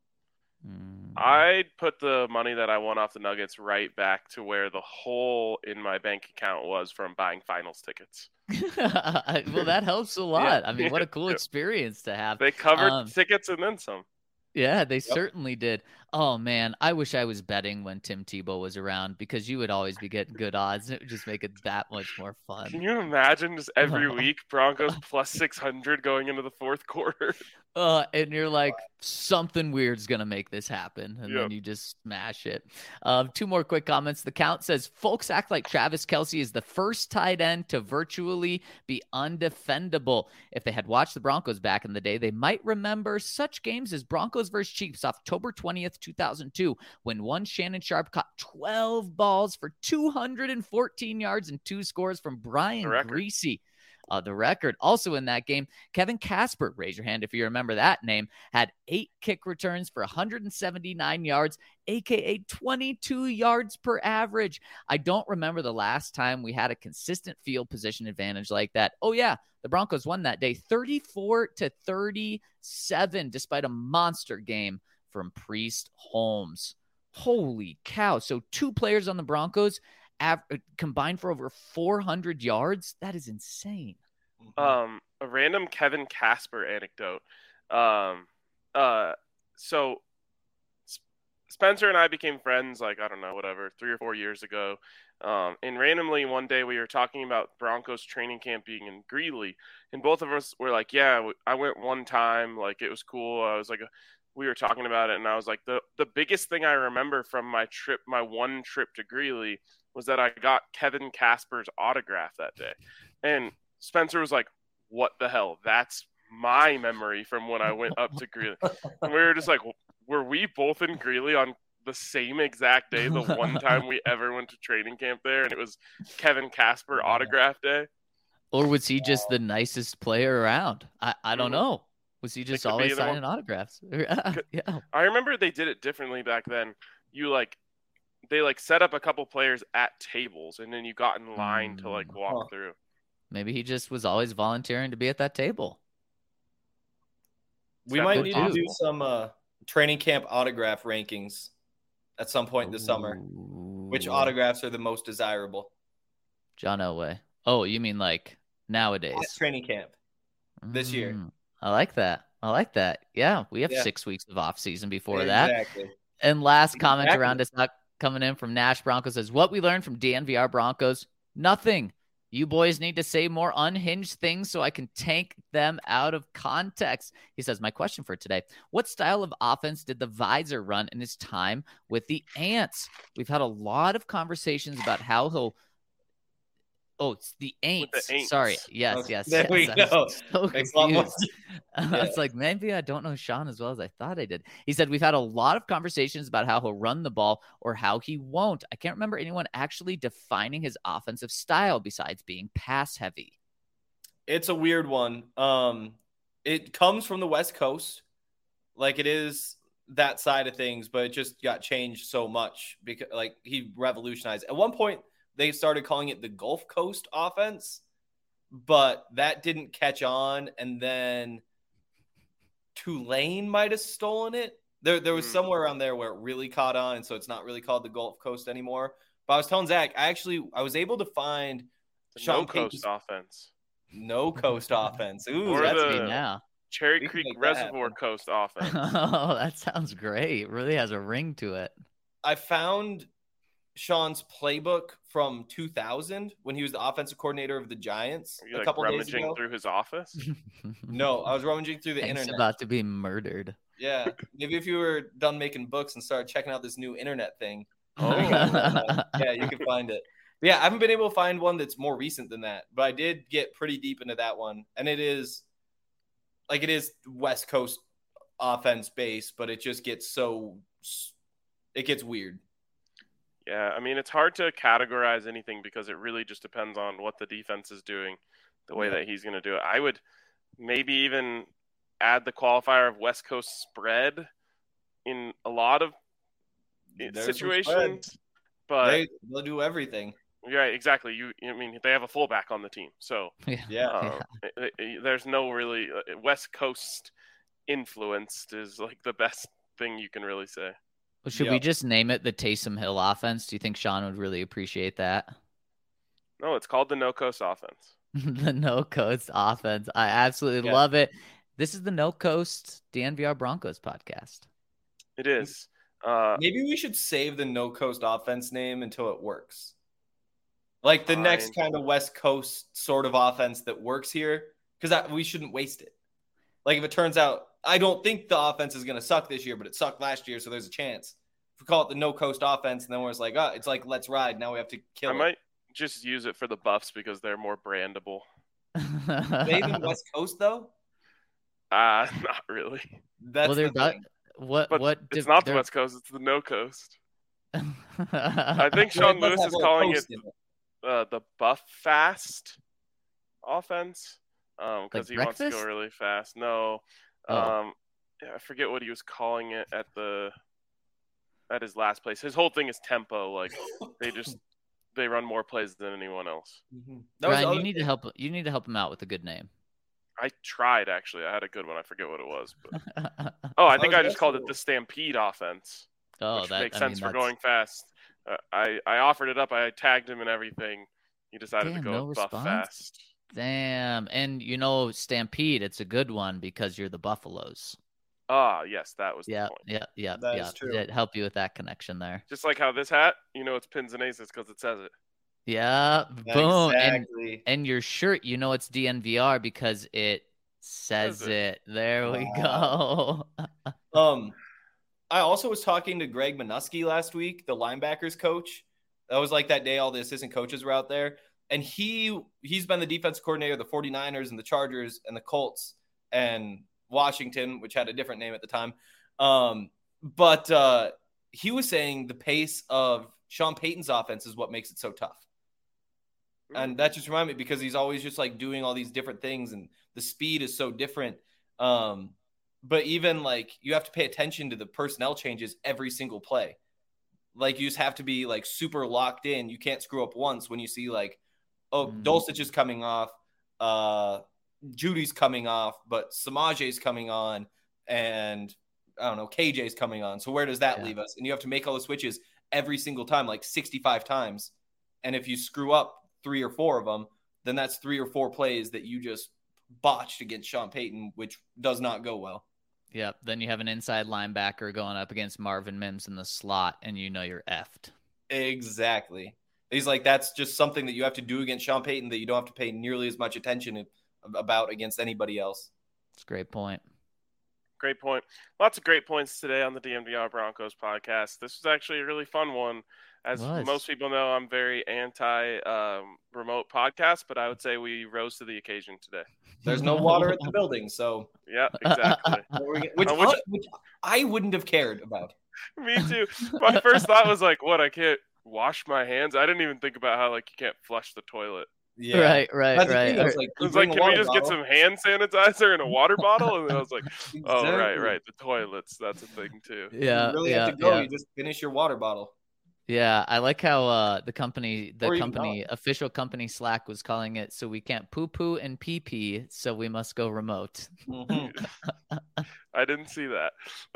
I'd put the money that I won off the Nuggets right back to where the hole in my bank account was from buying finals tickets. Well, that helps a lot. Yeah. I mean, what a cool experience to have. They covered the tickets and then some. Yeah, they certainly did. Oh man, I wish I was betting when Tim Tebow was around because you would always be getting good odds. It would just make it that much more fun. Can you imagine just every week Broncos plus 600 going into the fourth quarter? And you're like, something weird's going to make this happen. And Yep. then you just smash it. Two more quick comments. The count says, folks act like Travis Kelce is the first tight end to virtually be undefendable. If they had watched the Broncos back in the day, they might remember such games as Broncos versus Chiefs, October 20th, 2002, when one Shannon Sharp caught 12 balls for 214 yards and 2 scores from Brian Greasy. The record. Also in that game, Kevin Casper, raise your hand if you remember that name, had 8 kick returns for 179 yards, aka 22 yards per average. I don't remember the last time we had a consistent field position advantage like that. Oh yeah, the Broncos won that day 34-37 despite a monster game from Priest Holmes. Holy cow. So 2 players on the Broncos combined for over 400 yards. That is insane. A random Kevin Casper anecdote. So Spencer and I became friends, like, I don't know, whatever, 3 or 4 years ago. And randomly one day we were talking about Broncos training camp being in Greeley, and both of us were like, yeah, I went one time, like, it was cool. I was like, we were talking about it, and I was like, the biggest thing I remember from my one trip to Greeley was that I got Kevin Casper's autograph that day. And Spencer was like, what the hell? That's my memory from when I went up to Greeley. And we were just like, were we both in Greeley on the same exact day, the one time we ever went to training camp there, and it was Kevin Casper autograph day? Or was he just the nicest player around? I don't know. Was he just always signing autographs? Yeah. I remember they did it differently back then. They set up a couple players at tables, and then you got in line to walk through. Maybe he just was always volunteering to be at that table. We might need to do some training camp autograph rankings at some point this summer. Which autographs are the most desirable? John Elway. Oh, you mean like nowadays? At training camp this year. I like that. Yeah, we have 6 weeks of off season before that. Exactly. And last comment around us coming in from Nash Broncos says, what we learned from DNVR Broncos, nothing. You boys need to say more unhinged things so I can take them out of context. He says, my question for today, what style of offense did the Visor run in his time with the Ants? We've had a lot of conversations about how he'll it's the Aints. Sorry. Yes. There we go. So confused. It's like, maybe I don't know Sean as well as I thought I did. He said, we've had a lot of conversations about how he'll run the ball or how he won't. I can't remember anyone actually defining his offensive style besides being pass heavy. It's a weird one. It comes from the West Coast. Like, it is that side of things, but it just got changed so much because he revolutionized. At one point, they started calling it the Gulf Coast offense, but that didn't catch on. And then Tulane might have stolen it. There was somewhere around there where it really caught on, and so it's not really called the Gulf Coast anymore. But I was telling Zach, I was able to find No Coast offense. No Coast offense. Ooh, or that's the me now. Cherry Creek Reservoir Coast offense. Oh, that sounds great. It really has a ring to it. I found Sean's playbook from 2000 when he was the offensive coordinator of the Giants. Were you, a couple days rummaging ago. through his office? No, I was rummaging through the Hank's internet. about to be murdered. Yeah, maybe if you were done making books and started checking out this new internet thing. Yeah, you can find it. But yeah, I haven't been able to find one that's more recent than that, but I did get pretty deep into that one, and it is West Coast offense based, but it just gets it gets weird. Yeah, I mean, it's hard to categorize anything because it really just depends on what the defense is doing, the way that he's going to do it. I would maybe even add the qualifier of West Coast spread in a lot of situations, but they'll do everything. Right, exactly. I mean, they have a fullback on the team, so there's no really West Coast influenced is like the best thing you can really say. Well, should we just name it the Taysom Hill offense? Do you think Sean would really appreciate that? No, it's called the No Coast offense. The No Coast offense. I absolutely love it. This is the No Coast DNVR Broncos podcast. It is. Maybe we should save the No Coast offense name until it works. Like the next kind of West Coast sort of offense that works here, because we shouldn't waste it. Like if it turns out, I don't think the offense is going to suck this year, but it sucked last year, so there's a chance. If we call it the No Coast offense, and then we're just like, oh, it's like Let's Ride. Now we have to kill it. I might just use it for the Buffs because they're more brandable. They even West Coast though? Not really. That's well, they're the thing. What? It's not the West Coast. It's the No Coast. I think Sean Lewis is calling it the Buff Fast offense because Like he breakfast? wants to go really fast. No, I forget what he was calling it at his last place. His whole thing is tempo. Like they run more plays than anyone else. Ryan, you need to help. You need to help him out with a good name. I tried actually. I had a good one. I forget what it was. But... I think I just called it the Stampede offense. Which makes sense for going fast. I offered it up. I tagged him and everything. He decided to go Buff Fast. Damn. And Stampede, it's a good one because you're the Buffaloes. Yes, that was the point. Yeah. Is true. Did help you with that connection there. Just like how this hat, it's pins and aces because it says it. Yeah, boom. Exactly. And your shirt, it's DNVR because it says it. There we go. I also was talking to Greg Minuski last week, the linebackers coach. That was like that day all the assistant coaches were out there. And he's been the defensive coordinator of the 49ers and the Chargers and the Colts and Washington, which had a different name at the time. But he was saying the pace of Sean Payton's offense is what makes it so tough. And that just reminded me because he's always just like doing all these different things and the speed is so different. But even like you have to pay attention to the personnel changes every single play. Like you just have to be like super locked in. You can't screw up once when you see like, Dulcich is coming off, Judy's coming off, but Samaje's coming on, and I don't know, KJ's coming on. So where does that leave us? And you have to make all the switches every single time, like 65 times. And if you screw up 3 or 4 of them, then that's 3 or 4 plays that you just botched against Sean Payton, which does not go well. Yep. Then you have an inside linebacker going up against Marvin Mims in the slot, and you're effed. Exactly. He's like, that's just something that you have to do against Sean Payton that you don't have to pay nearly as much attention about against anybody else. That's a great point. Great point. Lots of great points today on the DNVR Broncos podcast. This was actually a really fun one. As most people know, I'm very anti-remote podcast, but I would say we rose to the occasion today. There's no water in the building, so. Yeah, exactly. which I wouldn't have cared about. Me too. My first thought was like, what, I can't wash my hands? I didn't even think about how like you can't flush the toilet. Yeah. Right. I was like, can we just get some hand sanitizer in a water bottle? And then I was like, oh, right. The toilets. That's a thing too. Yeah. You really have to go. You just finish your water bottle. Yeah. I like how official company Slack was calling it, so we can't poo-poo and pee-pee, so we must go remote. Mm-hmm. I didn't see that.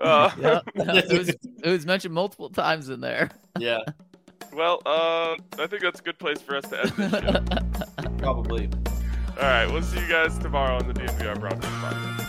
It was mentioned multiple times in there. Yeah. Well, I think that's a good place for us to end this show. Probably. All right, we'll see you guys tomorrow on the DNVR Broncos podcast.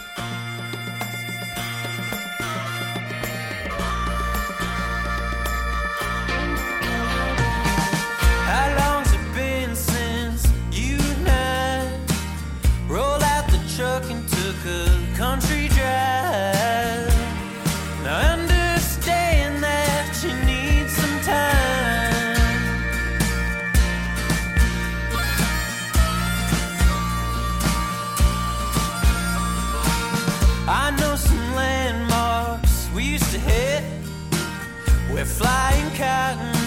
How long's it been since you and I rolled out the truck and took a country drive? Now I understand that you need some time. I know some landmarks we used to hit. We're flying cotton